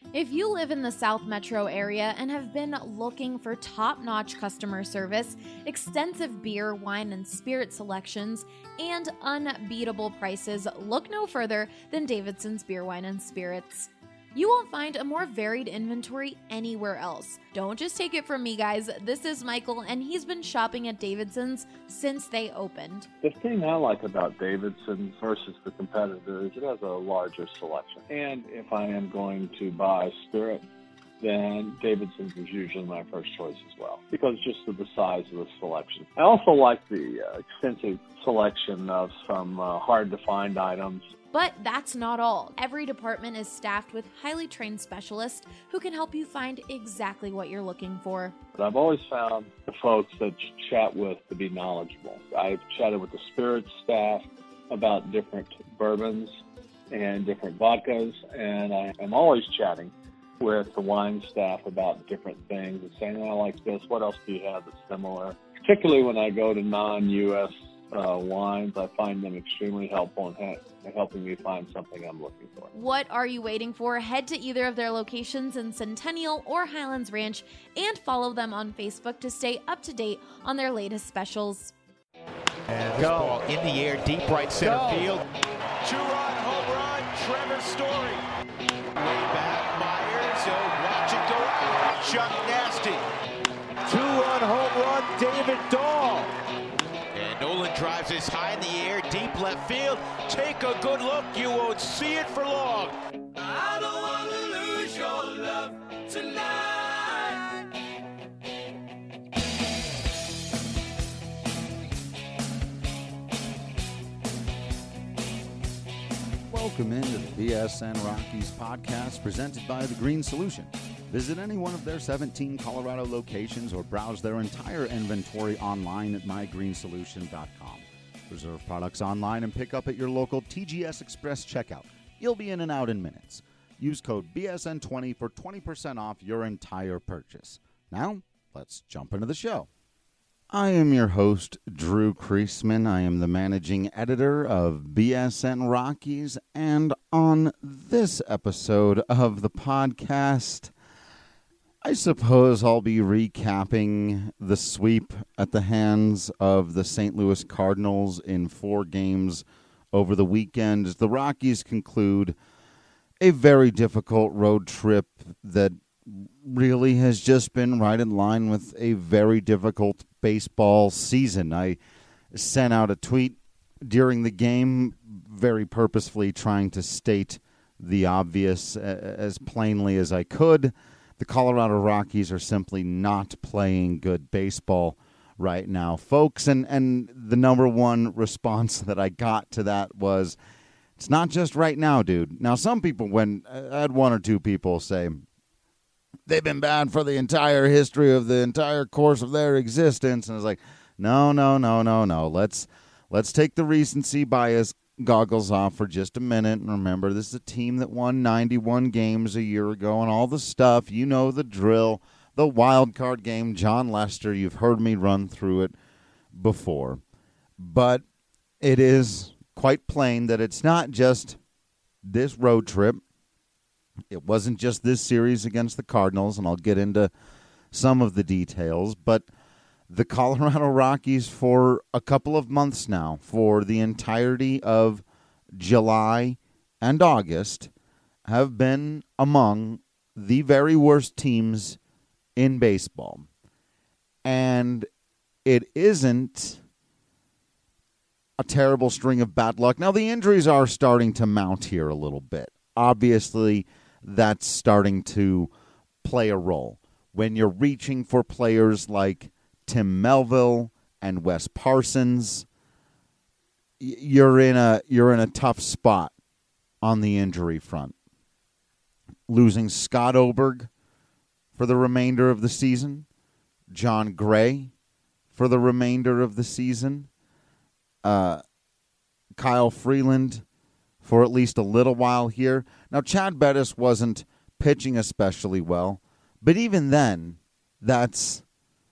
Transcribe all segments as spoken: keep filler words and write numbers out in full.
If you live in the South Metro area and have been looking for top-notch customer service, extensive beer, wine, and spirit selections, and unbeatable prices, look no further than Davidson's Beer, Wine, and Spirits. You won't find a more varied inventory anywhere else. Don't just take it from me, guys. This is Michael, and he's been shopping at Davidson's since they opened. The thing I like about Davidson's versus the competitor is it has a larger selection. And if I am going to buy spirit, then Davidson's is usually my first choice as well, because just of the size of the selection. I also like the uh, extensive selection of some uh, hard-to-find items. But that's not all. Every department is staffed with highly trained specialists who can help you find exactly what you're looking for. But I've always found the folks that you chat with to be knowledgeable. I've chatted with the spirits staff about different bourbons and different vodkas, and I am always chatting with the wine staff about different things and saying, I like this, what else do you have that's similar? Particularly when I go to non-U S Uh, wines, I find them extremely helpful in, ha- in helping me find something I'm looking for. What are you waiting for? Head to either of their locations in Centennial or Highlands Ranch and follow them on Facebook to stay up to date on their latest specials. And this ball in the air, deep right center Go. field. Two-run home run, Trevor Story. Way back, Myers, oh, watch it go out. Chuck Nasty. Two-run home run, David Dahl. And Nolan drives this high in the air, deep left field. Take a good look, you won't see it for long. I don't want to lose your love tonight. Welcome into the B S N Rockies podcast presented by The Green Solution. Visit any one of their seventeen Colorado locations or browse their entire inventory online at my green solution dot com. Reserve products online and pick up at your local T G S Express checkout. You'll be in and out in minutes. Use code B S N twenty for twenty percent off your entire purchase. Now, let's jump into the show. I am your host, Drew Kreisman. I am the managing editor of B S N Rockies, and on this episode of the podcast, I suppose I'll be recapping the sweep at the hands of the Saint Louis Cardinals in four games over the weekend. The Rockies conclude a very difficult road trip that really has just been right in line with a very difficult baseball season. I sent out a tweet during the game, very purposefully trying to state the obvious as plainly as I could. The Colorado Rockies are simply not playing good baseball right now, folks. And, and the number one response that I got to that was, it's not just right now, dude. Now, some people, when I had one or two people say, they've been bad for the entire history of the entire course of their existence. And I was like, no, no, no, no, no. Let's, let's take the recency bias goggles off for just a minute and remember this is a team that won ninety-one games a year ago and all the stuff. You know the drill, the wild card game, John Lester. You've heard me run through it before. But it is quite plain that it's not just this road trip. It wasn't just this series against the Cardinals, and I'll get into some of the details, but the Colorado Rockies for a couple of months now, for the entirety of July and August, have been among the very worst teams in baseball. And it isn't a terrible string of bad luck. Now, the injuries are starting to mount here a little bit. Obviously, that's starting to play a role. When you're reaching for players like Tim Melville and Wes Parsons, you're in a you're in a tough spot on the injury front. Losing Scott Oberg for the remainder of the season, John Gray for the remainder of the season, uh, Kyle Freeland for at least a little while here. Now, Chad Bettis wasn't pitching especially well, but even then, that's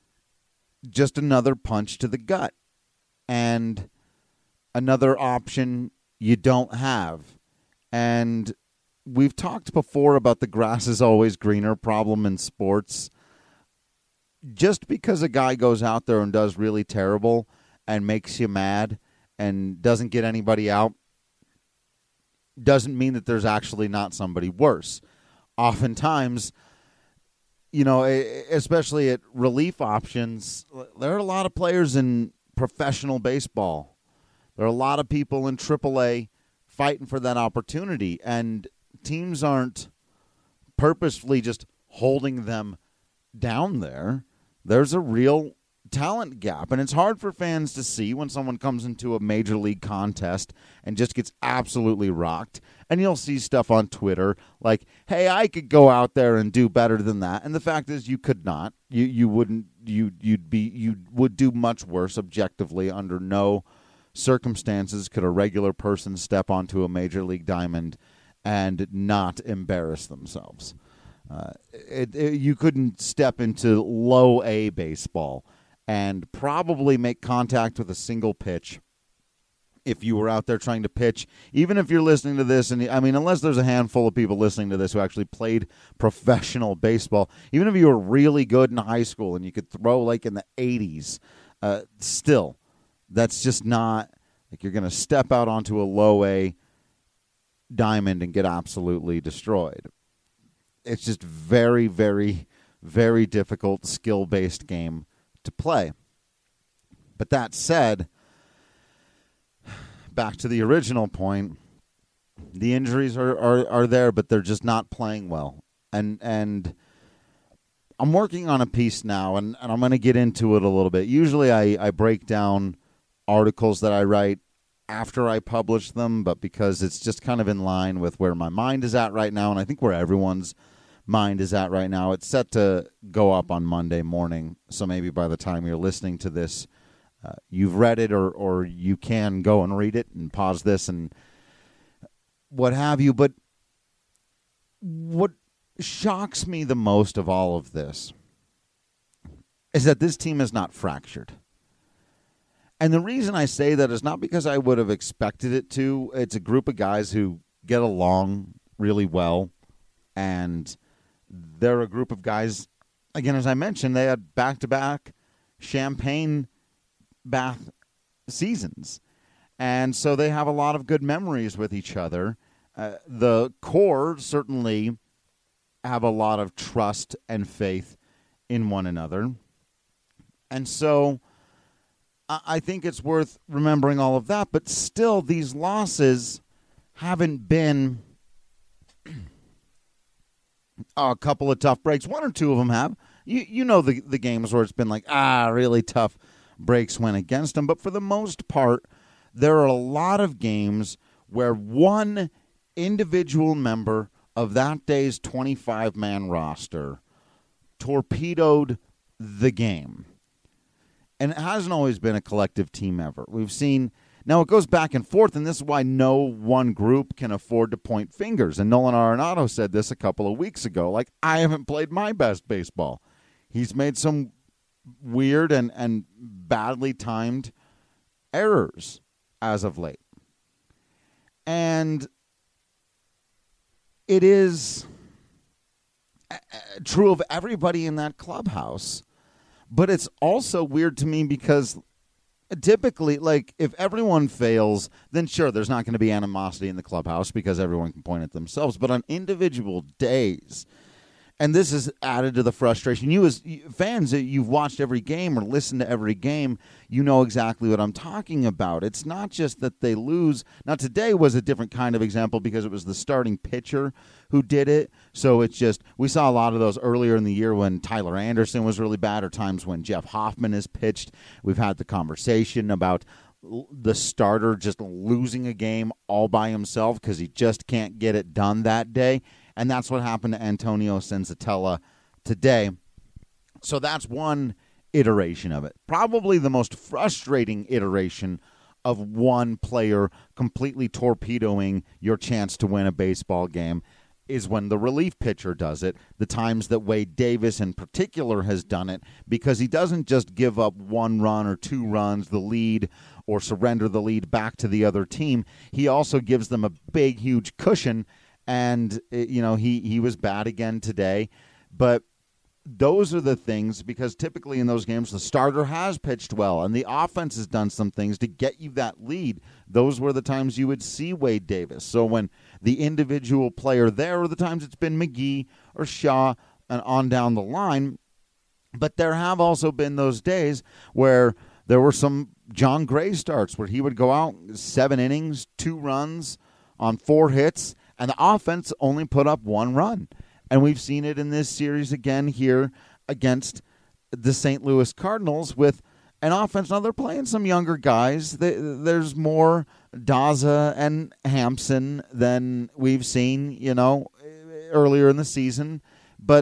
just another punch to the gut and another option you don't have. And we've talked before about the grass is always greener problem in sports. Just because a guy goes out there and does really terrible and makes you mad and doesn't get anybody out doesn't mean that there's actually not somebody worse. Oftentimes, you know, especially at relief options, there are a lot of players in professional baseball. There are a lot of people in triple A fighting for that opportunity, and teams aren't purposefully just holding them down there. There's a real talent gap, and it's hard for fans to see when someone comes into a major league contest and just gets absolutely rocked. And you'll see stuff on Twitter like, hey, I could go out there and do better than that. And the fact is you could not. You you wouldn't you you'd be you would do much worse objectively. Under no circumstances could a regular person step onto a major league diamond and not embarrass themselves. Uh, it, it, you couldn't step into low A baseball and probably make contact with a single pitch if you were out there trying to pitch. Even if you're listening to this, and I mean, unless there's a handful of people listening to this who actually played professional baseball, even if you were really good in high school and you could throw like in the eighties, uh, still, that's just not like you're going to step out onto a low A diamond and get absolutely destroyed. It's just very, very, very difficult skill-based game to play. But that said, back to the original point, the injuries are, are, are there, but they're just not playing well. And and I'm working on a piece now, and, and I'm going to get into it a little bit. Usually I, I break down articles that I write after I publish them, but because it's just kind of in line with where my mind is at right now, and I think where everyone's mind is at right now, it's set to go up on Monday morning, so maybe by the time you're listening to this, uh, you've read it, or, or you can go and read it and pause this and what have you. But what shocks me the most of all of this is that this team is not fractured. And the reason I say that is not because I would have expected it to. It's a group of guys who get along really well, and they're a group of guys, again, as I mentioned, they had back-to-back champagne bath seasons. And so they have a lot of good memories with each other. Uh, the core certainly have a lot of trust and faith in one another. And so I think it's worth remembering all of that, but still these losses haven't been a couple of tough breaks. One or two of them have. You you know the the games where it's been like, ah, really tough breaks went against them. But for the most part, there are a lot of games where one individual member of that day's twenty-five man roster torpedoed the game. And it hasn't always been a collective team effort. We've seen, now it goes back and forth, and this is why no one group can afford to point fingers. And Nolan Arenado said this a couple of weeks ago, like, I haven't played my best baseball. He's made some weird and, and badly timed errors as of late. And it is true of everybody in that clubhouse. But it's also weird to me because typically, like, if everyone fails, then sure, there's not going to be animosity in the clubhouse because everyone can point at themselves. But on individual days, and this is added to the frustration. You as fans, you've watched every game or listened to every game, you know exactly what I'm talking about. It's not just that they lose. Now, today was a different kind of example because it was the starting pitcher who did it. So it's just, we saw a lot of those earlier in the year when Tyler Anderson was really bad, or times when Jeff Hoffman has pitched. We've had the conversation about the starter just losing a game all by himself because he just can't get it done that day. And that's what happened to Antonio Senzatella today. So that's one iteration of it. Probably the most frustrating iteration of one player completely torpedoing your chance to win a baseball game is when the relief pitcher does it. The times that Wade Davis in particular has done it, because he doesn't just give up one run or two runs, the lead, or surrender the lead back to the other team. He also gives them a big, huge cushion. and, it, you know, he, he was bad again today. But those are the things, because typically in those games, the starter has pitched well, and the offense has done some things to get you that lead. Those were the times you would see Wade Davis. So when the individual player there are the times it's been McGee or Shaw and on down the line. But there have also been those days where there were some John Gray starts where he would go out seven innings, two runs on four hits, and the offense only put up one run. And we've seen it in this series again here against the Saint Louis Cardinals with an offense. Now, they're playing some younger guys. There's more Daza and Hampson than we've seen, you know, earlier in the season. But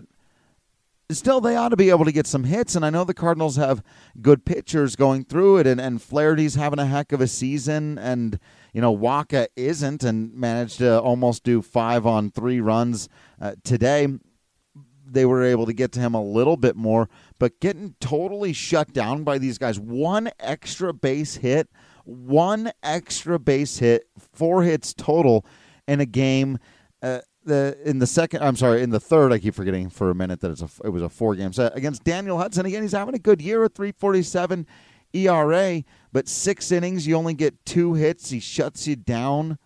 still, they ought to be able to get some hits. And I know the Cardinals have good pitchers going through it. And, and Flaherty's having a heck of a season. And, you know, Waka isn't and managed to almost do five on three runs uh, today. They were able to get to him a little bit more. But getting totally shut down by these guys. One extra base hit. One extra base hit. Four hits total in a game. Uh, The in the second, I'm sorry, in the third, I keep forgetting for a minute that it's a, it was a four-game set against Daniel Hudson. Again, he's having a good year, a three forty-seven E R A, but six innings, you only get two hits. He shuts you down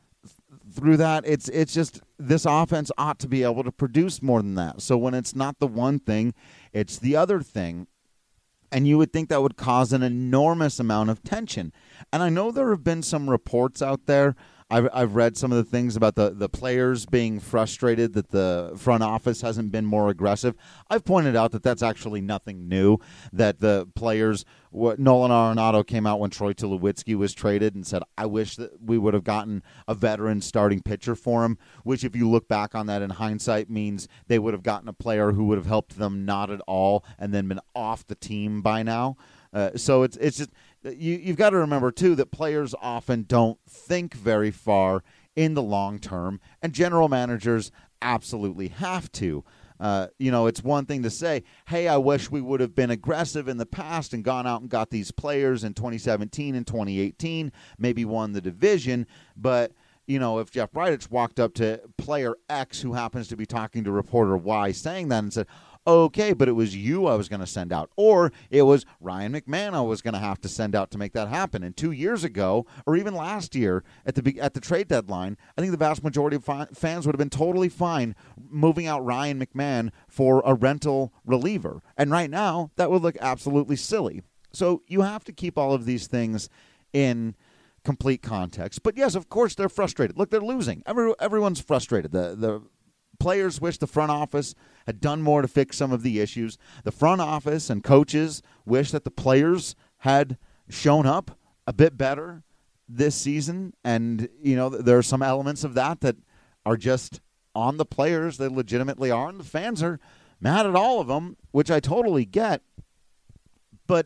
through that. It's it's just this offense ought to be able to produce more than that. So when it's not the one thing, it's the other thing. And you would think that would cause an enormous amount of tension. And I know there have been some reports out there. I've, I've read some of the things about the, the players being frustrated that the front office hasn't been more aggressive. I've pointed out that that's actually nothing new, that the players, what Nolan Arenado came out when Troy Tulowitzki was traded and said, I wish that we would have gotten a veteran starting pitcher for him, which if you look back on that in hindsight means they would have gotten a player who would have helped them not at all and then been off the team by now. Uh, so it's it's just you, you've got to remember, too, that players often don't think very far in the long term, and general managers absolutely have to. Uh, you know, it's one thing to say, hey, I wish we would have been aggressive in the past and gone out and got these players in twenty seventeen and twenty eighteen, maybe won the division, but you know, if Jeff Bridich walked up to player X, who happens to be talking to reporter Y, saying that and said, okay, but it was you I was going to send out, or it was Ryan McMahon I was going to have to send out to make that happen. And two years ago, or even last year at the at the trade deadline, I think the vast majority of fi- fans would have been totally fine moving out Ryan McMahon for a rental reliever. And right now, that would look absolutely silly. So you have to keep all of these things in complete context. But yes, of course, they're frustrated. Look, they're losing. Every, everyone's frustrated. The the players wish the front office had done more to fix some of the issues. The front office and coaches wish that the players had shown up a bit better this season. And, you know, there are some elements of that that are just on the players. They legitimately are. And the fans are mad at all of them, which I totally get. But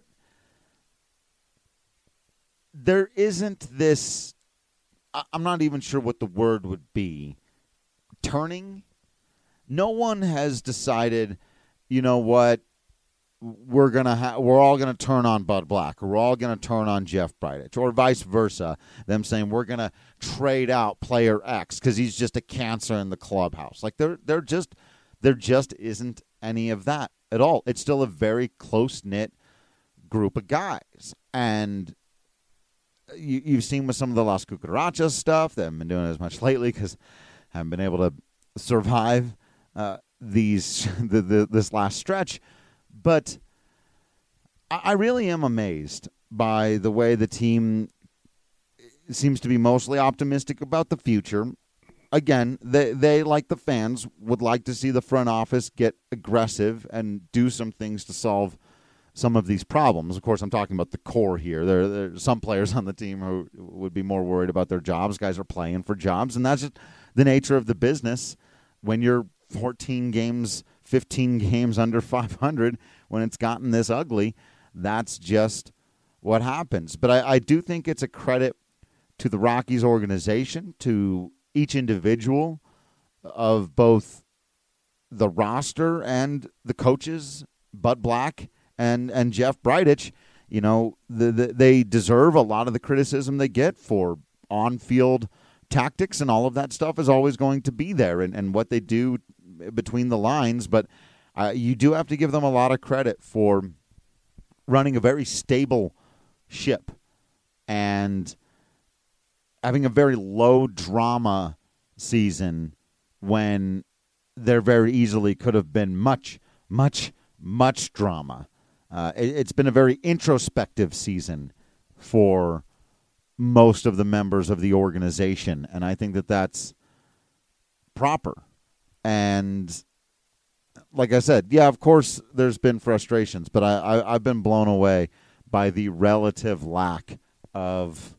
there isn't this, I'm not even sure what the word would be, turning. No one has decided, you know what, we're gonna ha- we're all gonna turn on Bud Black, or we're all gonna turn on Jeff Bridich, or vice versa. Them saying we're gonna trade out player X because he's just a cancer in the clubhouse. Like there, there just there just isn't any of that at all. It's still a very close knit group of guys, and you, you've seen with some of the Las Cucarachas stuff. They haven't been doing it as much lately because I haven't been able to survive uh, these the, the this last stretch. But I, I really am amazed by the way the team seems to be mostly optimistic about the future. Again, they, they, like the fans, would like to see the front office get aggressive and do some things to solve some of these problems. Of course, I'm talking about the core here. There, there are some players on the team who would be more worried about their jobs. Guys are playing for jobs, and that's just the nature of the business. When you're fourteen games, fifteen games under five hundred, when it's gotten this ugly, that's just what happens. But I, I do think it's a credit to the Rockies organization, to each individual of both the roster and the coaches, Bud Black and, and Jeff Bridich. You know, the, the, they deserve a lot of the criticism they get for on-field tactics and all of that stuff is always going to be there, and, and what they do between the lines. But uh, you do have to give them a lot of credit for running a very stable ship and having a very low drama season when there very easily could have been much, much, much drama. Uh, it, it's been a very introspective season for most of the members of the organization, and I think that that's proper. And like I said, yeah, of course there's been frustrations, but I, I, I've been blown away by the relative lack of,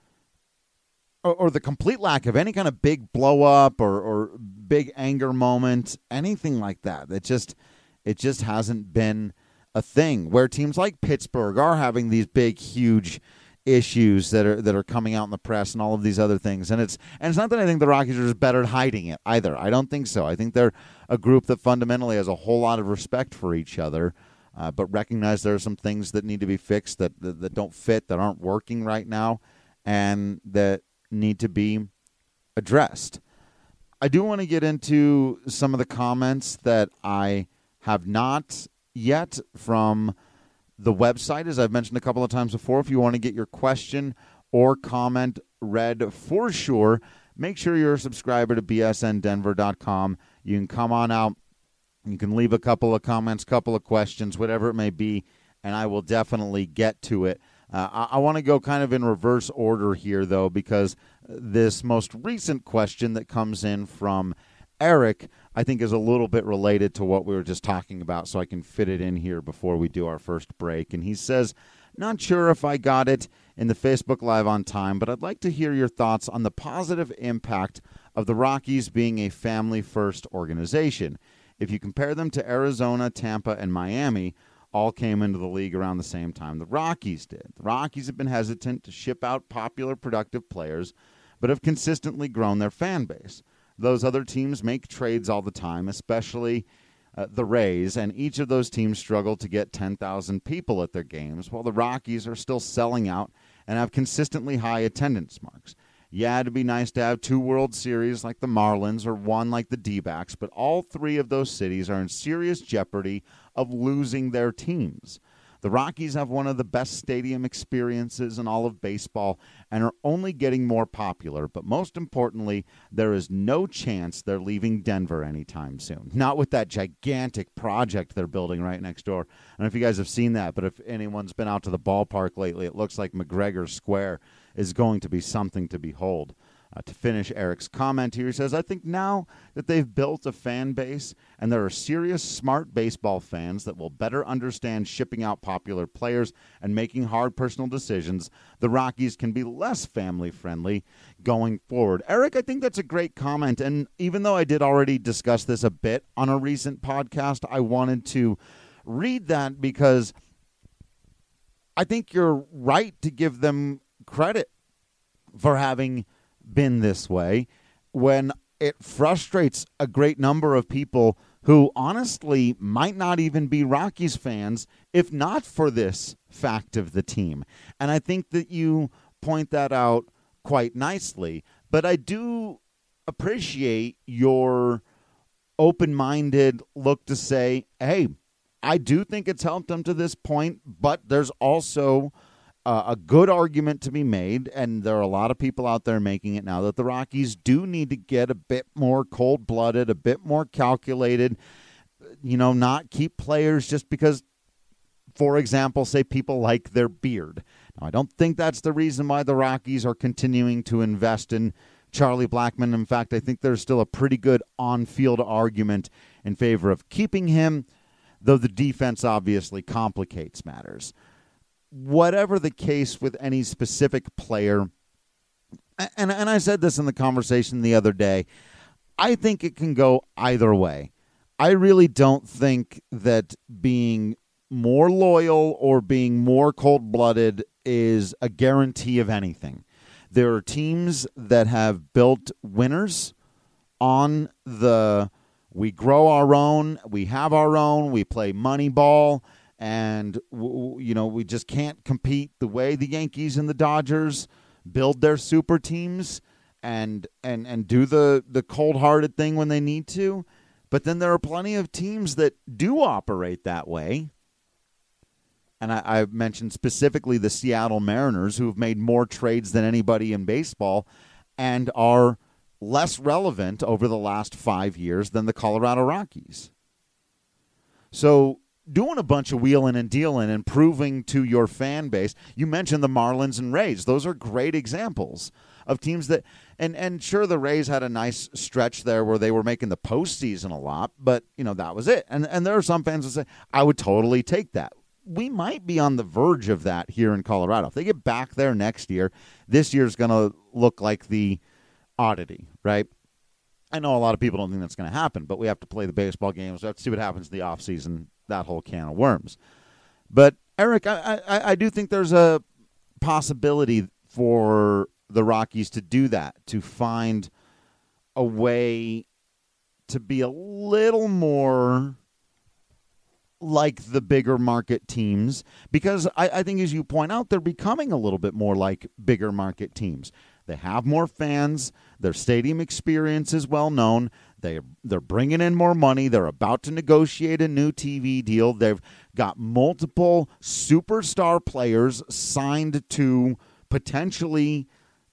or, or the complete lack of any kind of big blow up or, or big anger moment, anything like that. It just, it just hasn't been a thing where teams like Pittsburgh are having these big, huge issues that are that are coming out in the press and all of these other things. And it's and it's not that I think the Rockies are just better at hiding it either. I don't think so. I think they're a group that fundamentally has a whole lot of respect for each other, uh, but recognize there are some things that need to be fixed that, that that don't fit, that aren't working right now, and that need to be addressed. I do want to get into some of the comments that I have not yet from the website, as I've mentioned a couple of times before. If you want to get your question or comment read for sure, make sure you're a subscriber to B S N Denver dot com. You can come on out. You can leave a couple of comments, couple of questions, whatever it may be, and I will definitely get to it. Uh, I, I want to go kind of in reverse order here, though, because this most recent question that comes in from Eric, I think, is a little bit related to what we were just talking about, so I can fit it in here before we do our first break. And he says, not sure if I got it in the Facebook Live on time, but I'd like to hear your thoughts on the positive impact of the Rockies being a family-first organization. If you compare them to Arizona, Tampa, and Miami, all came into the league around the same time the Rockies did. The Rockies have been hesitant to ship out popular, productive players, but have consistently grown their fan base. Those other teams make trades all the time, especially uh, the Rays, and each of those teams struggle to get ten thousand people at their games, while the Rockies are still selling out and have consistently high attendance marks. Yeah, it'd be nice to have two World Series like the Marlins or one like the D-backs, but all three of those cities are in serious jeopardy of losing their teams. The Rockies have one of the best stadium experiences in all of baseball and are only getting more popular, but most importantly, there is no chance they're leaving Denver anytime soon. Not with that gigantic project they're building right next door. I don't know if you guys have seen that, but if anyone's been out to the ballpark lately, it looks like McGregor Square is going to be something to behold. Uh, to finish Eric's comment here, he says, I think now that they've built a fan base and there are serious, smart baseball fans that will better understand shipping out popular players and making hard personal decisions, the Rockies can be less family-friendly going forward. Eric, I think that's a great comment, and even though I did already discuss this a bit on a recent podcast, I wanted to read that because I think you're right to give them credit for having been this way when it frustrates a great number of people who honestly might not even be Rockies fans if not for this fact of the team. And I think that you point that out quite nicely. But I do appreciate your open-minded look to say, hey, I do think it's helped them to this point, but there's also Uh, a good argument to be made, and there are a lot of people out there making it now, that the Rockies do need to get a bit more cold-blooded, a bit more calculated, you know, not keep players just because, for example, say people like their beard. Now, I don't think that's the reason why the Rockies are continuing to invest in Charlie Blackmon. In fact, I think there's still a pretty good on-field argument in favor of keeping him, though the defense obviously complicates matters. Whatever the case with any specific player, and, and I said this in the conversation the other day, I think it can go either way. I really don't think that being more loyal or being more cold-blooded is a guarantee of anything. There are teams that have built winners on the we grow our own, we have our own, we play money ball, and, you know, we just can't compete the way the Yankees and the Dodgers build their super teams. and and and do the, the cold-hearted thing when they need to. But then there are plenty of teams that do operate that way. And I, I mentioned specifically the Seattle Mariners, who have made more trades than anybody in baseball and are less relevant over the last five years than the Colorado Rockies. So doing a bunch of wheeling and dealing and proving to your fan base, you mentioned the Marlins and Rays. Those are great examples of teams that, and, and sure, the Rays had a nice stretch there where they were making the postseason a lot, but, you know, that was it. And, and there are some fans that say, I would totally take that. We might be on the verge of that here in Colorado. If they get back there next year, this year's going to look like the oddity, right? I know a lot of people don't think that's going to happen, but we have to play the baseball games. We have to see what happens in the offseason, that whole can of worms. But, Eric, I, I, I do think there's a possibility for the Rockies to do that, to find a way to be a little more like the bigger market teams, because I, I think, as you point out, they're becoming a little bit more like bigger market teams. They have more fans. Their stadium experience is well known. They, they're bringing in more money. They're about to negotiate a new T V deal. They've got multiple superstar players signed to potentially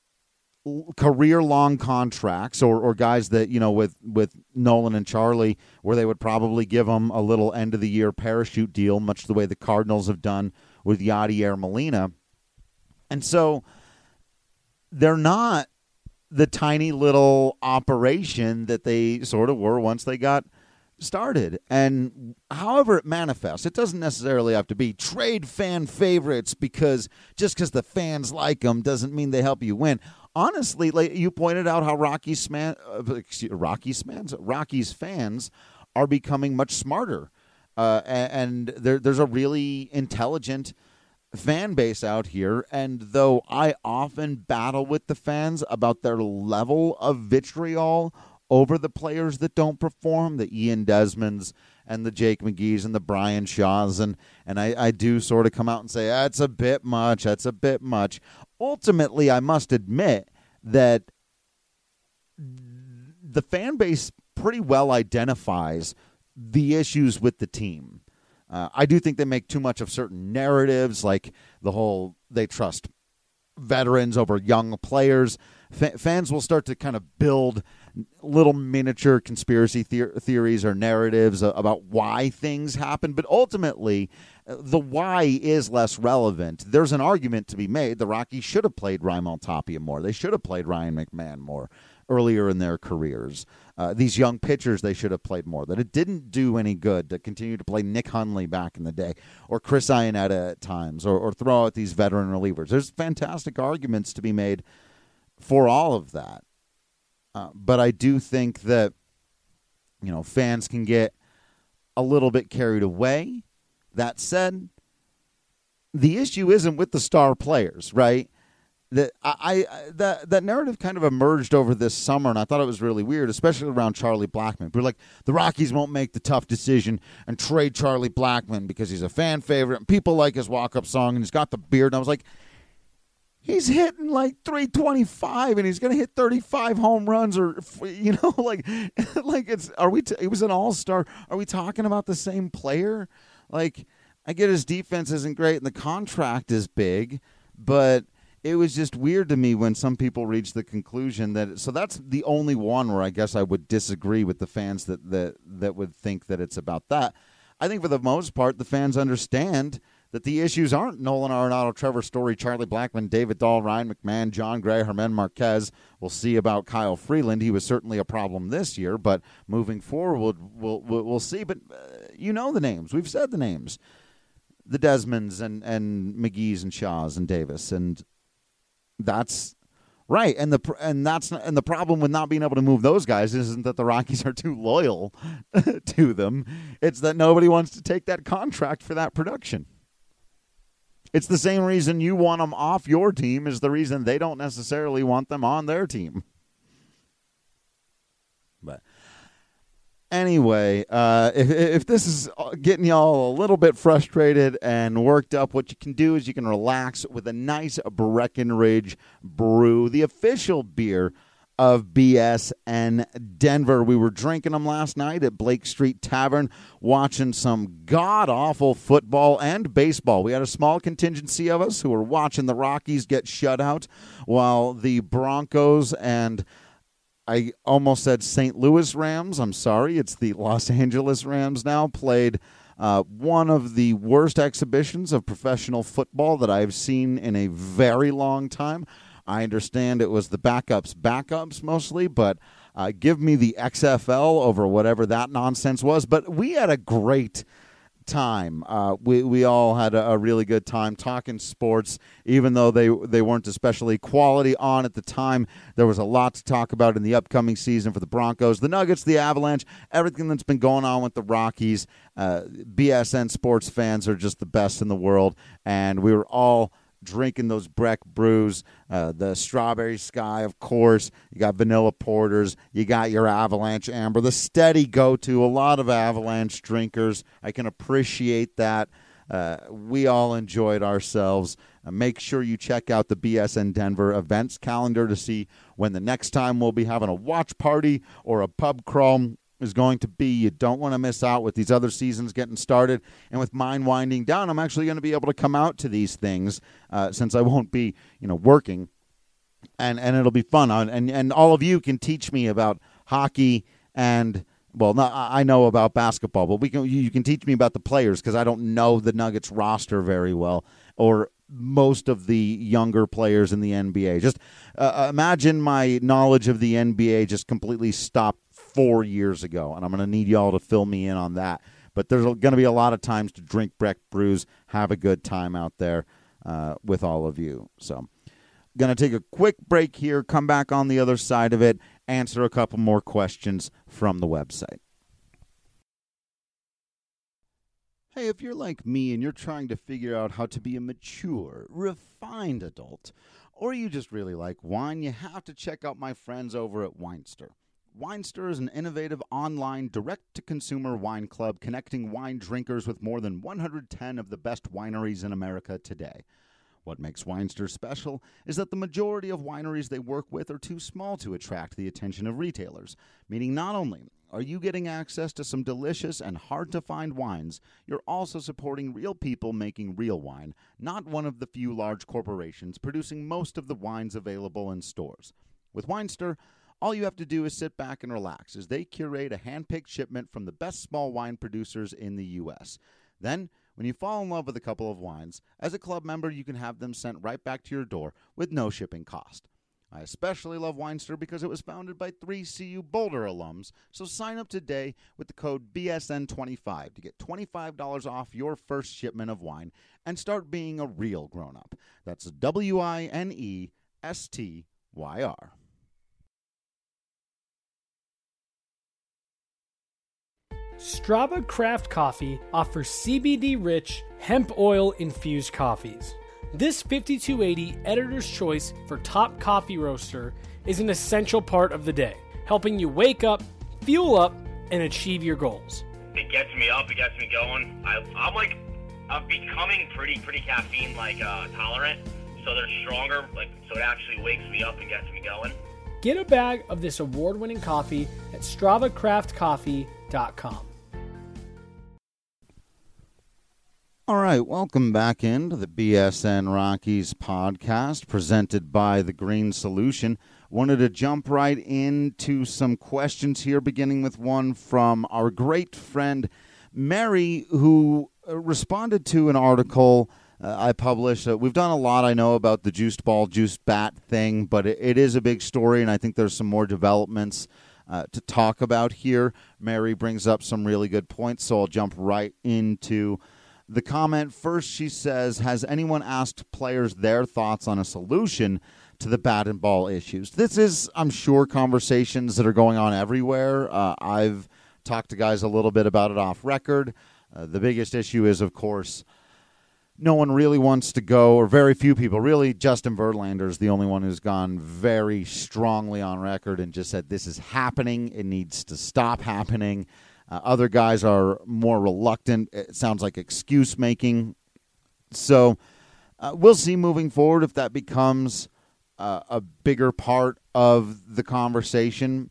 career-long contracts, or, or guys that, you know, with, with Nolan and Charlie, where they would probably give them a little end-of-the-year parachute deal, much the way the Cardinals have done with Yadier Molina. And so they're not the tiny little operation that they sort of were once they got started. And however it manifests, it doesn't necessarily have to be trade fan favorites, because just because the fans like them doesn't mean they help you win. Honestly, like you pointed out, how Rockies man, uh, excuse, Rockies fans, Rockies fans are becoming much smarter, uh, and there, there's a really intelligent fan base out here. And though I often battle with the fans about their level of vitriol over the players that don't perform, the Ian Desmonds and the Jake McGee's and the Brian Shaws, and and I, I do sort of come out and say, that's a bit much, that's a bit much. Ultimately, I must admit that the fan base pretty well identifies the issues with the team. Uh, I do think they make too much of certain narratives, like the whole they trust veterans over young players. F- fans will start to kind of build little miniature conspiracy the- theories or narratives uh, about why things happen. But ultimately, uh, the why is less relevant. There's an argument to be made. The Rockies should have played Raimel Tapia more. They should have played Ryan McMahon more earlier in their careers. Uh, these young pitchers, they should have played more. That it didn't do any good to continue to play Nick Hundley back in the day, or Chris Iannetta at times, or, or throw out these veteran relievers. There's fantastic arguments to be made for all of that. Uh, but I do think that, you know, fans can get a little bit carried away. That said, the issue isn't with the star players, right? That I, I that that narrative kind of emerged over this summer, and I thought it was really weird, especially around Charlie Blackmon. We're like, the Rockies won't make the tough decision and trade Charlie Blackmon because he's a fan favorite and people like his walk-up song and he's got the beard. And I was like, he's hitting like three twenty-five, and he's going to hit thirty-five home runs, or, you know, like, like it's, are we, t- it was an all-star. Are we talking about the same player? Like, I get his defense isn't great and the contract is big, but it was just weird to me when some people reached the conclusion that, so that's the only one where I guess I would disagree with the fans that, that, that would think that it's about that. I think for the most part, the fans understand that the issues aren't Nolan Arenado, Trevor Story, Charlie Blackmon, David Dahl, Ryan McMahon, John Gray, Germán Marquez. We'll see about Kyle Freeland. He was certainly a problem this year, but moving forward, we'll, we'll, we'll see. But uh, you know the names. We've said the names. The Desmonds and, and McGee's and Shaws and Davis. And that's right. And the and that's not, and the problem with not being able to move those guys isn't that the Rockies are too loyal to them. It's that nobody wants to take that contract for that production. It's the same reason you want them off your team is the reason they don't necessarily want them on their team. But anyway, uh, if, if this is getting y'all a little bit frustrated and worked up, what you can do is you can relax with a nice Breckenridge Brew, the official beer of B S N Denver. We were drinking them last night at Blake Street Tavern, watching some god-awful football and baseball. We had a small contingency of us who were watching the Rockies get shut out, while the Broncos and I almost said Saint Louis Rams. I'm sorry, it's the Los Angeles Rams now, played uh, one of the worst exhibitions of professional football that I've seen in a very long time. I understand it was the backups, backups mostly, but uh, give me the X F L over whatever that nonsense was. But we had a great time. Uh, we we all had a, a really good time talking sports, even though they they weren't especially quality on at the time. There was a lot to talk about in the upcoming season for the Broncos, the Nuggets, the Avalanche, everything that's been going on with the Rockies. Uh, B S N sports fans are just the best in the world, and we were all drinking those Breck brews, uh, the Strawberry Sky, of course. You got vanilla porters. You got your Avalanche Amber, the steady go-to. A lot of Avalanche drinkers. I can appreciate that. Uh, we all enjoyed ourselves. Uh, make sure you check out the B S N Denver events calendar to see when the next time we'll be having a watch party or a pub crawl is going to be. You don't want to miss out with these other seasons getting started. And with mine winding down, I'm actually going to be able to come out to these things uh, since I won't be, you know, working. And and it'll be fun. And, and all of you can teach me about hockey and, well, not, I know about basketball, but we can you can teach me about the players because I don't know the Nuggets roster very well, or most of the younger players in the N B A. Just uh, imagine my knowledge of the N B A just completely stopped four years ago, and I'm going to need y'all to fill me in on that. But there's going to be a lot of times to drink Breck brews, have a good time out there uh, with all of you. So going to take a quick break here, come back on the other side of it, answer a couple more questions from the website. Hey, if you're like me and you're trying to figure out how to be a mature, refined adult, or you just really like wine, you have to check out my friends over at Winester. Winester is an innovative online direct-to-consumer wine club connecting wine drinkers with more than one hundred ten of the best wineries in America today. What makes Winester special is that the majority of wineries they work with are too small to attract the attention of retailers, meaning not only are you getting access to some delicious and hard-to-find wines, you're also supporting real people making real wine, not one of the few large corporations producing most of the wines available in stores. With Winester, all you have to do is sit back and relax as they curate a hand-picked shipment from the best small wine producers in the U S. Then, when you fall in love with a couple of wines, as a club member, you can have them sent right back to your door with no shipping cost. I especially love Winester because it was founded by three C U Boulder alums, so sign up today with the code B S N twenty-five to get twenty-five dollars off your first shipment of wine and start being a real grown-up. That's W I N E S T Y R. Strava Craft Coffee offers C B D-rich, hemp oil-infused coffees. This fifty-two eighty Editor's Choice for Top Coffee Roaster is an essential part of the day, helping you wake up, fuel up, and achieve your goals. It gets me up, it gets me going. I, I'm like, I'm becoming pretty, pretty caffeine like uh, tolerant, so they're stronger, like so it actually wakes me up and gets me going. Get a bag of this award-winning coffee at strava craft coffee dot com. All right, welcome back into the B S N Rockies podcast presented by The Green Solution. Wanted to jump right into some questions here, beginning with one from our great friend Mary, who responded to an article uh, I published. Uh, we've done a lot, I know, about the juiced ball, juiced bat thing, but it, it is a big story, and I think there's some more developments uh, to talk about here. Mary brings up some really good points, so I'll jump right into the comment. First, she says, has anyone asked players their thoughts on a solution to the bat and ball issues? This is, I'm sure, conversations that are going on everywhere. Uh, I've talked to guys a little bit about it off record. Uh, the biggest issue is, of course, no one really wants to go, or very few people. Really, Justin Verlander is the only one who's gone very strongly on record and just said this is happening. It needs to stop happening. Uh, other guys are more reluctant. It sounds like excuse-making. So uh, we'll see moving forward if that becomes uh, uh, a bigger part of the conversation.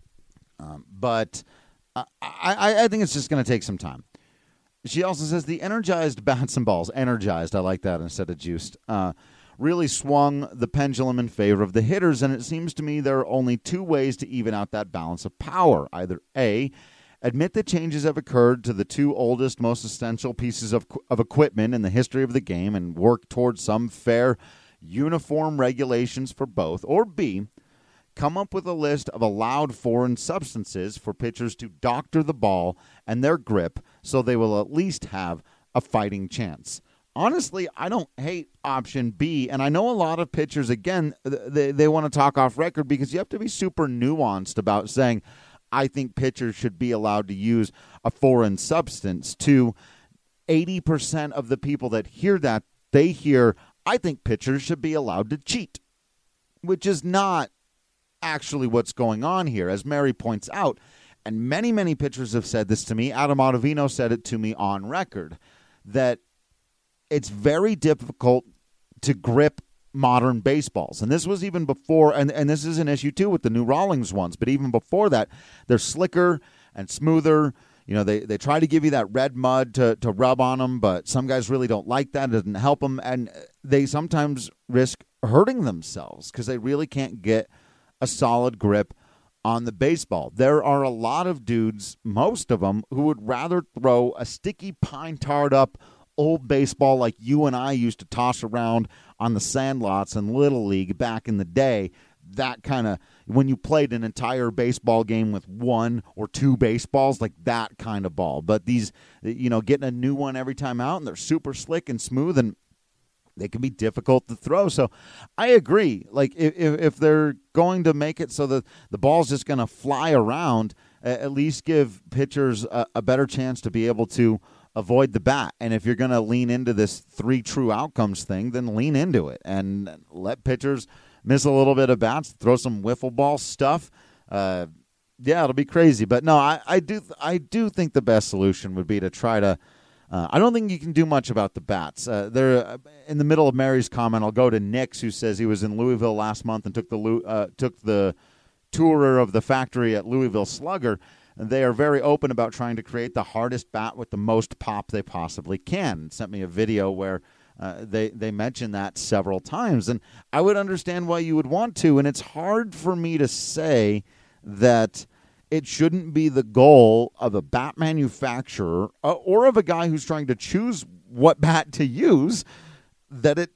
Um, but I, I, I think it's just going to take some time. She also says the energized bats and balls, energized, I like that instead of juiced, uh, really swung the pendulum in favor of the hitters, and it seems to me there are only two ways to even out that balance of power. Either A, admit that changes have occurred to the two oldest, most essential pieces of, of equipment in the history of the game and work towards some fair, uniform regulations for both, or B, come up with a list of allowed foreign substances for pitchers to doctor the ball and their grip so they will at least have a fighting chance. Honestly, I don't hate option B, and I know a lot of pitchers, again, they, they want to talk off record because you have to be super nuanced about saying, I think pitchers should be allowed to use a foreign substance. To eighty percent of the people that hear that, they hear, I think pitchers should be allowed to cheat, which is not actually what's going on here, as Mary points out. And many, many pitchers have said this to me. Adam Ottavino said it to me on record, that it's very difficult to grip modern baseballs. And this was even before, and, and this is an issue too with the new Rawlings ones, but even before that, they're slicker and smoother. You know, they, they try to give you that red mud to, to rub on them, but some guys really don't like that. It doesn't help them, and they sometimes risk hurting themselves because they really can't get a solid grip on the baseball. There are a lot of dudes, most of them, who would rather throw a sticky, pine-tarred up old baseball like you and I used to toss around on the sandlots in Little League back in the day. That kind of, when you played an entire baseball game with one or two baseballs, like that kind of ball. But these, you know, getting a new one every time out, and they're super slick and smooth, and they can be difficult to throw. So I agree. Like, if, if they're going to make it so that the ball's just going to fly around, at least give pitchers a, a better chance to be able to avoid the bat. And if you're going to lean into this three true outcomes thing, then lean into it and let pitchers miss a little bit of bats, throw some wiffle ball stuff. Uh, yeah, it'll be crazy. But no, I, I do I do think the best solution would be to try to Uh, I don't think you can do much about the bats. Uh, they're uh, in the middle of Mary's comment. I'll go to Nix, who says he was in Louisville last month and took the uh, took the tour of the factory at Louisville Slugger. And they are very open about trying to create the hardest bat with the most pop they possibly can. Sent me a video where uh, they they mentioned that several times, and I would understand why you would want to. And it's hard for me to say that it shouldn't be the goal of a bat manufacturer uh, or of a guy who's trying to choose what bat to use, that it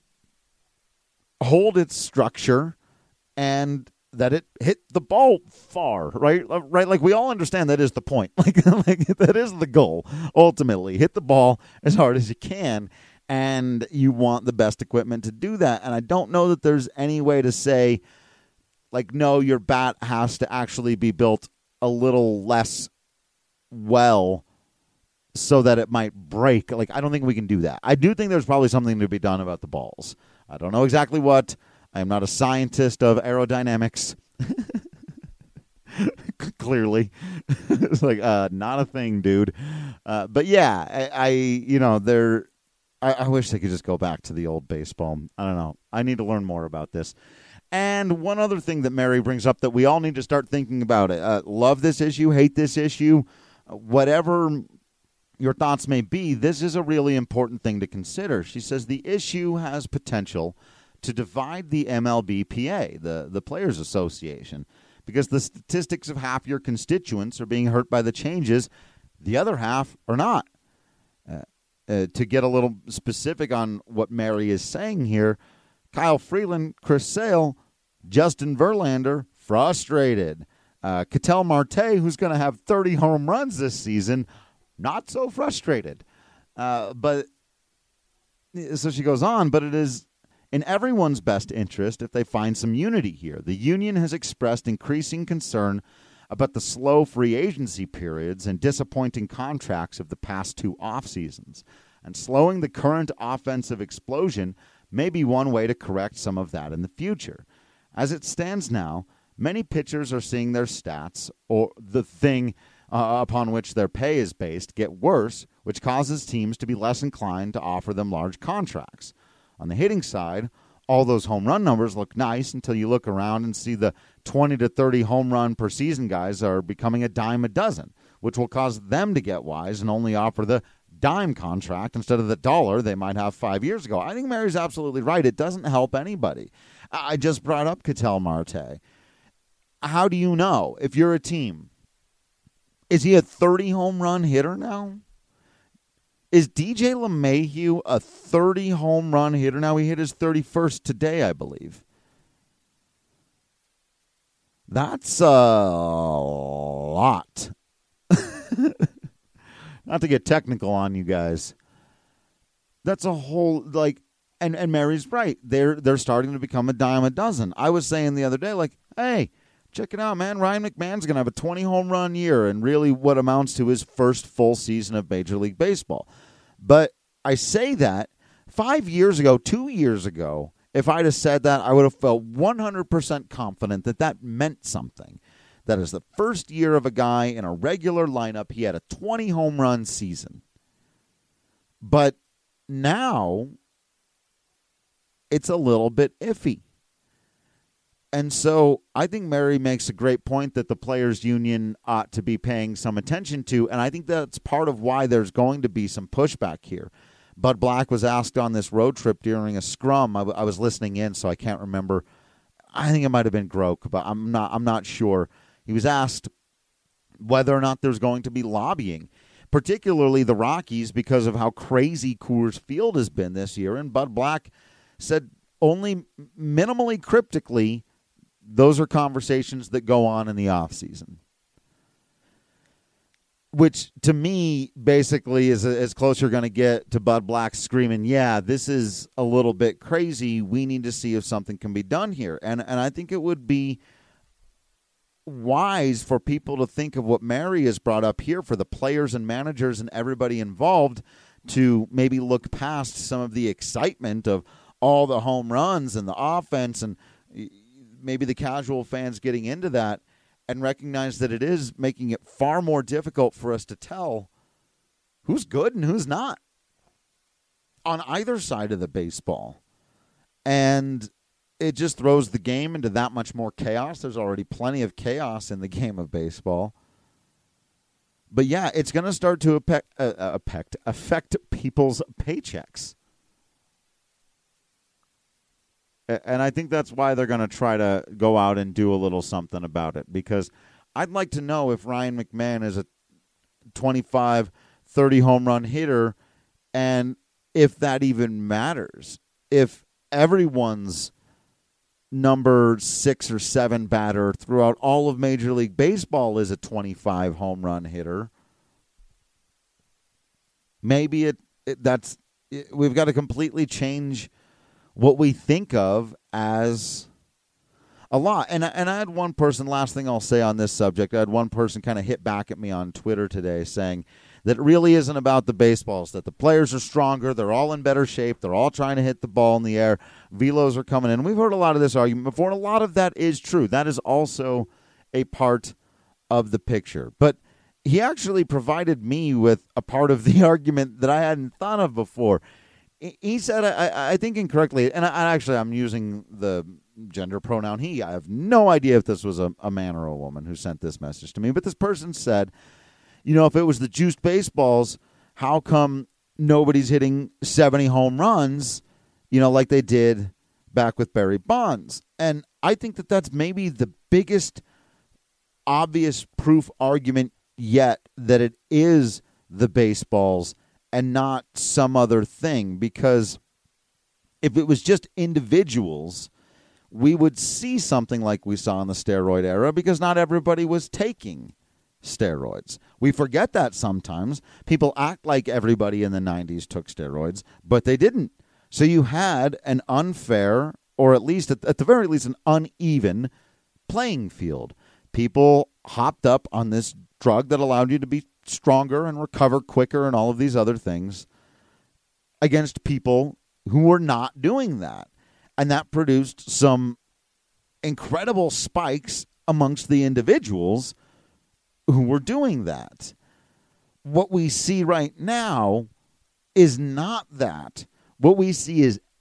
hold its structure and that it hit the ball far, right? Right, like we all understand that is the point. Like, like that is the goal, ultimately. Hit the ball as hard as you can, and you want the best equipment to do that. And I don't know that there's any way to say, like, no, your bat has to actually be built a little less well so that it might break. Like, I don't think we can do that. I do think there's probably something to be done about the balls. I don't know exactly what. I am not a scientist of aerodynamics. Clearly. It's like, uh, not a thing, dude. Uh, but yeah, I, I you know, there, I, I wish they could just go back to the old baseball. I don't know. I need to learn more about this. And one other thing that Mary brings up that we all need to start thinking about it. Uh, love this issue, hate this issue, uh, whatever your thoughts may be, this is a really important thing to consider. She says the issue has potential to divide the M L B P A, the, the Players Association, because the statistics of half your constituents are being hurt by the changes, the other half are not. Uh, uh, to get a little specific on what Mary is saying here, Kyle Freeland, Chris Sale, Justin Verlander, frustrated. Uh, Ketel Marte, who's going to have thirty home runs this season, not so frustrated. Uh, but so she goes on, but it is in everyone's best interest if they find some unity here. The union has expressed increasing concern about the slow free agency periods and disappointing contracts of the past two off seasons, and slowing the current offensive explosion may be one way to correct some of that in the future. As it stands now, many pitchers are seeing their stats, or the thing uh, upon which their pay is based, get worse, which causes teams to be less inclined to offer them large contracts. On the hitting side, all those home run numbers look nice until you look around and see the twenty to thirty home run per season guys are becoming a dime a dozen, which will cause them to get wise and only offer the dime contract instead of the dollar they might have five years ago. I think Mary's absolutely right. It doesn't help anybody. I just brought up Ketel Marte. How do you know if you're a team? Is he a thirty home run hitter now? Is D J LeMahieu a thirty home run hitter now? He hit his thirty-first today, I believe. That's a lot. Not to get technical on you guys. That's a whole, like, and, and Mary's right. They're they're starting to become a dime a dozen. I was saying the other day, like, hey, check it out, man. Ryan McMahon's going to have a twenty home run year and really what amounts to his first full season of Major League Baseball. But I say that five years ago, two years ago, if I'd have said that, I would have felt one hundred percent confident that that meant something. That is the first year of a guy in a regular lineup. He had a twenty home run season. But now it's a little bit iffy. And so I think Mary makes a great point that the Players Union ought to be paying some attention to, and I think that's part of why there's going to be some pushback here. Bud Black was asked on this road trip during a scrum. I, w- I was listening in, so I can't remember. I think it might have been Groke, but I'm not. I'm not sure. He was asked whether or not there's going to be lobbying, particularly the Rockies, because of how crazy Coors Field has been this year. And Bud Black said only minimally cryptically, those are conversations that go on in the offseason. Which, to me, basically is as close you're going to get to Bud Black screaming, yeah, this is a little bit crazy. We need to see if something can be done here. And and I think it would be wise for people to think of what Mary has brought up here for the players and managers and everybody involved to maybe look past some of the excitement of all the home runs and the offense and maybe the casual fans getting into that and recognize that it is making it far more difficult for us to tell who's good and who's not on either side of the baseball. And it just throws the game into that much more chaos. There's already plenty of chaos in the game of baseball. But yeah, it's going to start to affect, uh, affect, affect people's paychecks. And I think that's why they're going to try to go out and do a little something about it. Because I'd like to know if Ryan McMahon is a twenty-five, thirty home run hitter and if that even matters. If everyone's number six or seven batter throughout all of Major League Baseball is a twenty-five home run hitter, maybe it, it that's it, we've got to completely change what we think of as a lot. And, and I had one person, last thing I'll say on this subject, I had one person kind of hit back at me on Twitter today saying that it really isn't about the baseballs, that the players are stronger, they're all in better shape, they're all trying to hit the ball in the air, velos are coming in. We've heard a lot of this argument before, and a lot of that is true. That is also a part of the picture. But he actually provided me with a part of the argument that I hadn't thought of before. He said, I, I think incorrectly, and I, actually I'm using the gender pronoun he. I have no idea if this was a, a man or a woman who sent this message to me, but this person said, you know, if it was the juiced baseballs, how come nobody's hitting seventy home runs, you know, like they did back with Barry Bonds? And I think that that's maybe the biggest obvious proof argument yet that it is the baseballs and not some other thing, because if it was just individuals, we would see something like we saw in the steroid era because not everybody was taking steroids. We forget that sometimes. People act like everybody in the nineties took steroids, but they didn't. So you had an unfair, or at least at, at the very least an uneven playing field. People hopped up on this drug that allowed you to be stronger and recover quicker and all of these other things against people who were not doing that. And that produced some incredible spikes amongst the individuals who were doing that. What we see right now is not that. What we see is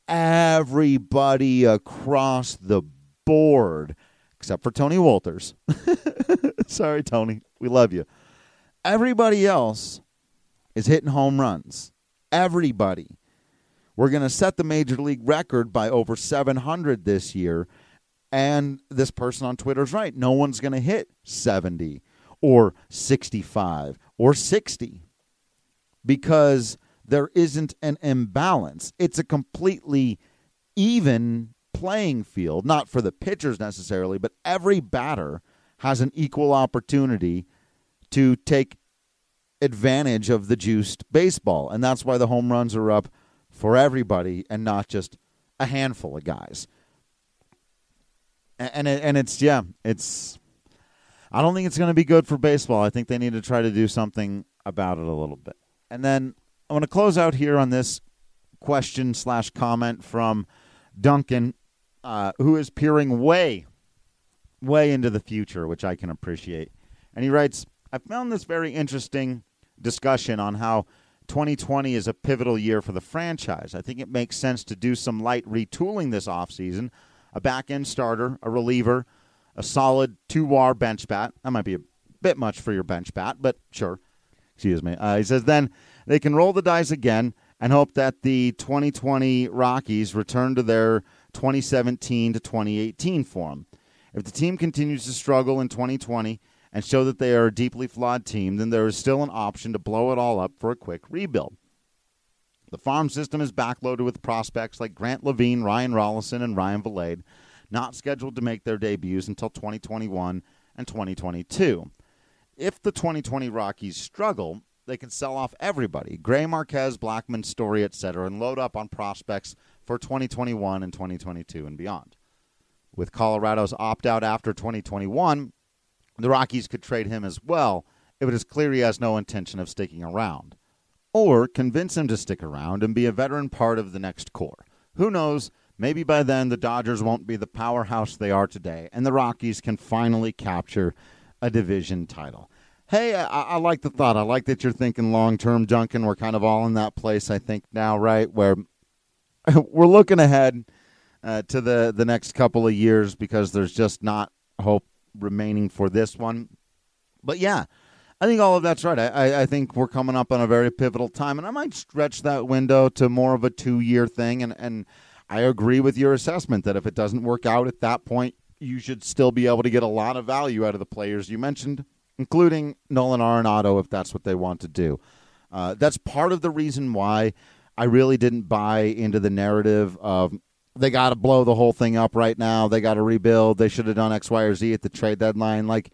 everybody across the board, except for Tony Wolters. Sorry, Tony. We love you. Everybody else is hitting home runs. Everybody. We're going to set the Major League record by over seven hundred this year. And this person on Twitter is right. No one's going to hit seventy or sixty-five or sixty because there isn't an imbalance. It's a completely even playing field, not for the pitchers necessarily, but every batter has an equal opportunity to take advantage of the juiced baseball. And that's why the home runs are up for everybody and not just a handful of guys. And it, and it's, yeah, it's, I don't think it's going to be good for baseball. I think they need to try to do something about it a little bit. And then I want to close out here on this question slash comment from Duncan, uh, who is peering way, way into the future, which I can appreciate. And he writes, I found this very interesting discussion on how twenty twenty is a pivotal year for the franchise. I think it makes sense to do some light retooling this offseason. A back-end starter, a reliever, a solid two-W A R bench bat. That might be a bit much for your bench bat, but sure. Excuse me. Uh, he says then they can roll the dice again and hope that the twenty twenty Rockies return to their twenty seventeen to twenty eighteen form. If the team continues to struggle in twenty twenty and show that they are a deeply flawed team, then there is still an option to blow it all up for a quick rebuild. The farm system is backloaded with prospects like Grant Levine, Ryan Rollison, and Ryan Vilade, not scheduled to make their debuts until twenty twenty-one and twenty twenty-two. If the twenty twenty Rockies struggle, they can sell off everybody, Gray, Marquez, Blackman, Story, et cetera, and load up on prospects for twenty twenty-one and twenty twenty-two and beyond. With Colorado's opt-out after twenty twenty-one, the Rockies could trade him as well if it is clear he has no intention of sticking around. Or convince him to stick around and be a veteran part of the next core. Who knows, maybe by then the Dodgers won't be the powerhouse they are today, and the Rockies can finally capture a division title. Hey, I, I like the thought. I like that you're thinking long-term, Duncan. We're kind of all in that place, I think, now, right, where we're looking ahead uh, to the, the next couple of years because there's just not hope remaining for this one. But, yeah. I think all of that's right. I, I think we're coming up on a very pivotal time, and I might stretch that window to more of a two-year thing, and, and I agree with your assessment that if it doesn't work out at that point, you should still be able to get a lot of value out of the players you mentioned, including Nolan Arenado if that's what they want to do. Uh, that's part of the reason why I really didn't buy into the narrative of they got to blow the whole thing up right now, they got to rebuild, they should have done X, Y, or Z at the trade deadline. Like,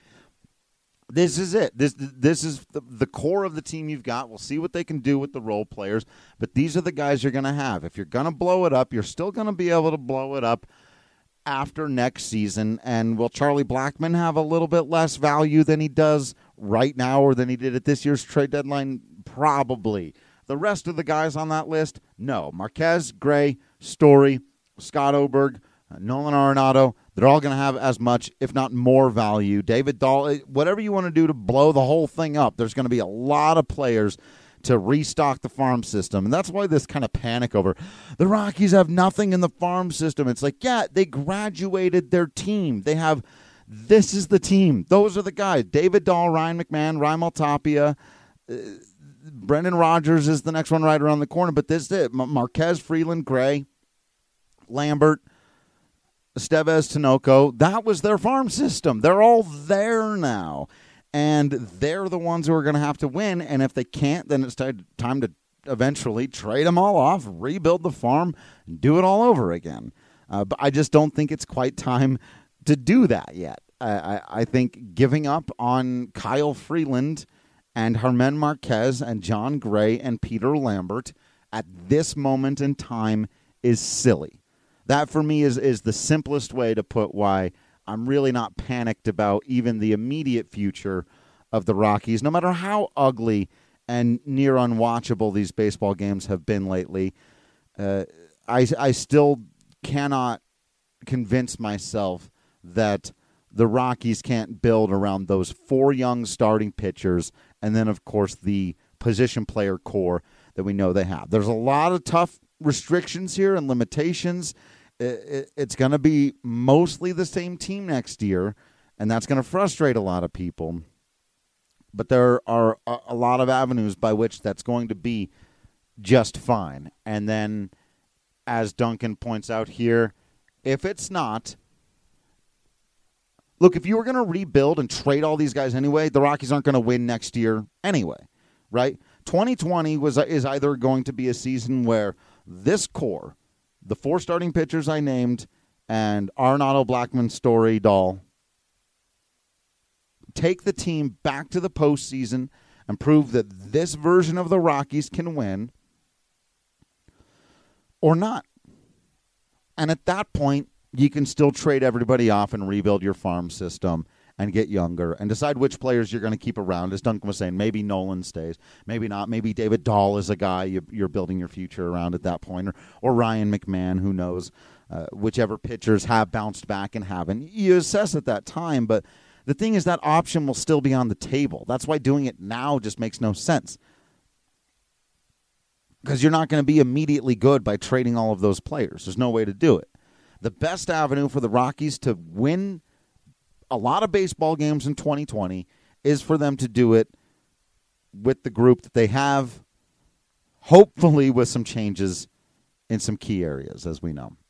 This is it. This this is the, the core of the team you've got. We'll see what they can do with the role players, but these are the guys you're going to have. If you're going to blow it up, you're still going to be able to blow it up after next season. And will Charlie Blackmon have a little bit less value than he does right now or than he did at this year's trade deadline? Probably. The rest of the guys on that list, no. Marquez, Gray, Story, Scott Oberg, uh, Nolan Arenado, they're all going to have as much, if not more, value. David Dahl, whatever you want to do to blow the whole thing up, there's going to be a lot of players to restock the farm system. And that's why this kind of panic over the Rockies have nothing in the farm system. It's like, yeah, they graduated their team. They have, this is the team. Those are the guys. David Dahl, Ryan McMahon, Raimel Tapia, uh, Brendan Rodgers is the next one right around the corner. But this is it. Marquez, Freeland, Gray, Lambert, Estevez, Tinoco, that was their farm system. They're all there now, and they're the ones who are going to have to win, and if they can't, then it's time to eventually trade them all off, rebuild the farm, and do it all over again. Uh, but I just don't think it's quite time to do that yet. I, I, I think giving up on Kyle Freeland and Germán Marquez and John Gray and Peter Lambert at this moment in time is silly. That, for me, is, is the simplest way to put why I'm really not panicked about even the immediate future of the Rockies, no matter how ugly and near unwatchable these baseball games have been lately. Uh, I, I still cannot convince myself that the Rockies can't build around those four young starting pitchers and then, of course, the position player core that we know they have. There's a lot of tough restrictions here and limitations, it's going to be mostly the same team next year, and that's going to frustrate a lot of people. But there are a lot of avenues by which that's going to be just fine. And then, as Duncan points out here, if it's not, look, if you were going to rebuild and trade all these guys anyway, the Rockies aren't going to win next year anyway, right? twenty twenty was is either going to be a season where this core, the four starting pitchers I named, and Arenado, Blackmon, Story, Dahl, take the team back to the postseason and prove that this version of the Rockies can win, or not. And at that point, you can still trade everybody off and rebuild your farm system and get younger and decide which players you're going to keep around. As Duncan was saying, maybe Nolan stays, maybe not. Maybe David Dahl is a guy you, you're building your future around at that point, or, or Ryan McMahon, who knows, uh, whichever pitchers have bounced back and haven't. You assess at that time, but the thing is that option will still be on the table. That's why doing it now just makes no sense, because you're not going to be immediately good by trading all of those players. There's no way to do it. The best avenue for the Rockies to win a lot of baseball games in twenty twenty is for them to do it with the group that they have, hopefully with some changes in some key areas, as we know.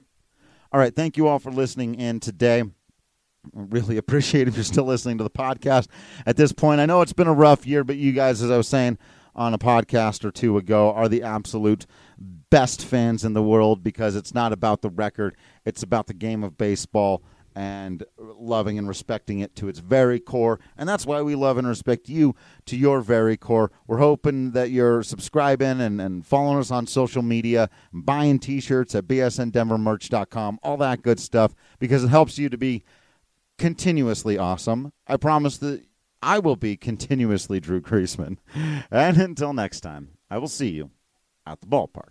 All right, thank you all for listening in today. I really appreciate if you're still listening to the podcast at this point. I know it's been a rough year, but you guys, as I was saying on a podcast or two ago, are the absolute best fans in the world, because it's not about the record. It's about the game of baseball and loving and respecting it to its very core. And that's why we love and respect you to your very core. We're hoping that you're subscribing and, and following us on social media, buying T-shirts at b s n denver merch dot com, all that good stuff, because it helps you to be continuously awesome. I promise that I will be continuously Drew Creasman. And until next time, I will see you at the ballpark.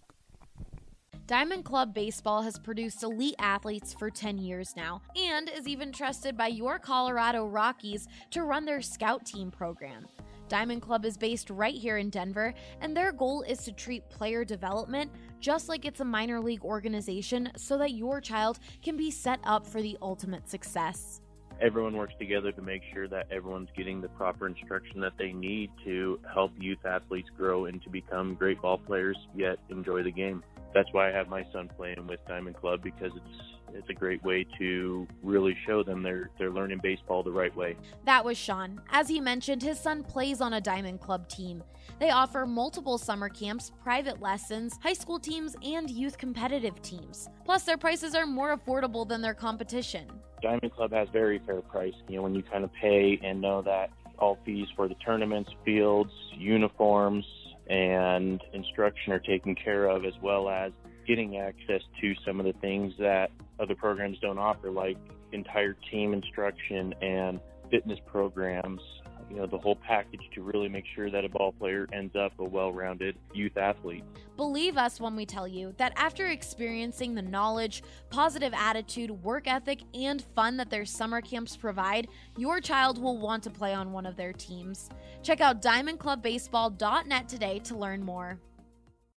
Diamond Club Baseball has produced elite athletes for ten years now, and is even trusted by your Colorado Rockies to run their scout team program. Diamond Club is based right here in Denver, and their goal is to treat player development just like it's a minor league organization, so that your child can be set up for the ultimate success. Everyone works together to make sure that everyone's getting the proper instruction that they need to help youth athletes grow and to become great ball players, yet enjoy the game. That's why I have my son playing with Diamond Club, because it's it's a great way to really show them they're they're learning baseball the right way. That was Sean. As he mentioned, his son plays on a Diamond Club team. They offer multiple summer camps, private lessons, high school teams, and youth competitive teams. Plus, their prices are more affordable than their competition. Diamond Club has very fair price. You know, when you kind of pay and know that all fees for the tournaments, fields, uniforms, and instruction are taken care of, as well as getting access to some of the things that other programs don't offer, like entire team instruction and fitness programs, you know, the whole package to really make sure that a ball player ends up a well-rounded youth athlete. Believe us when we tell you that after experiencing the knowledge, positive attitude, work ethic, and fun that their summer camps provide, your child will want to play on one of their teams. Check out diamond club baseball dot net today to learn more.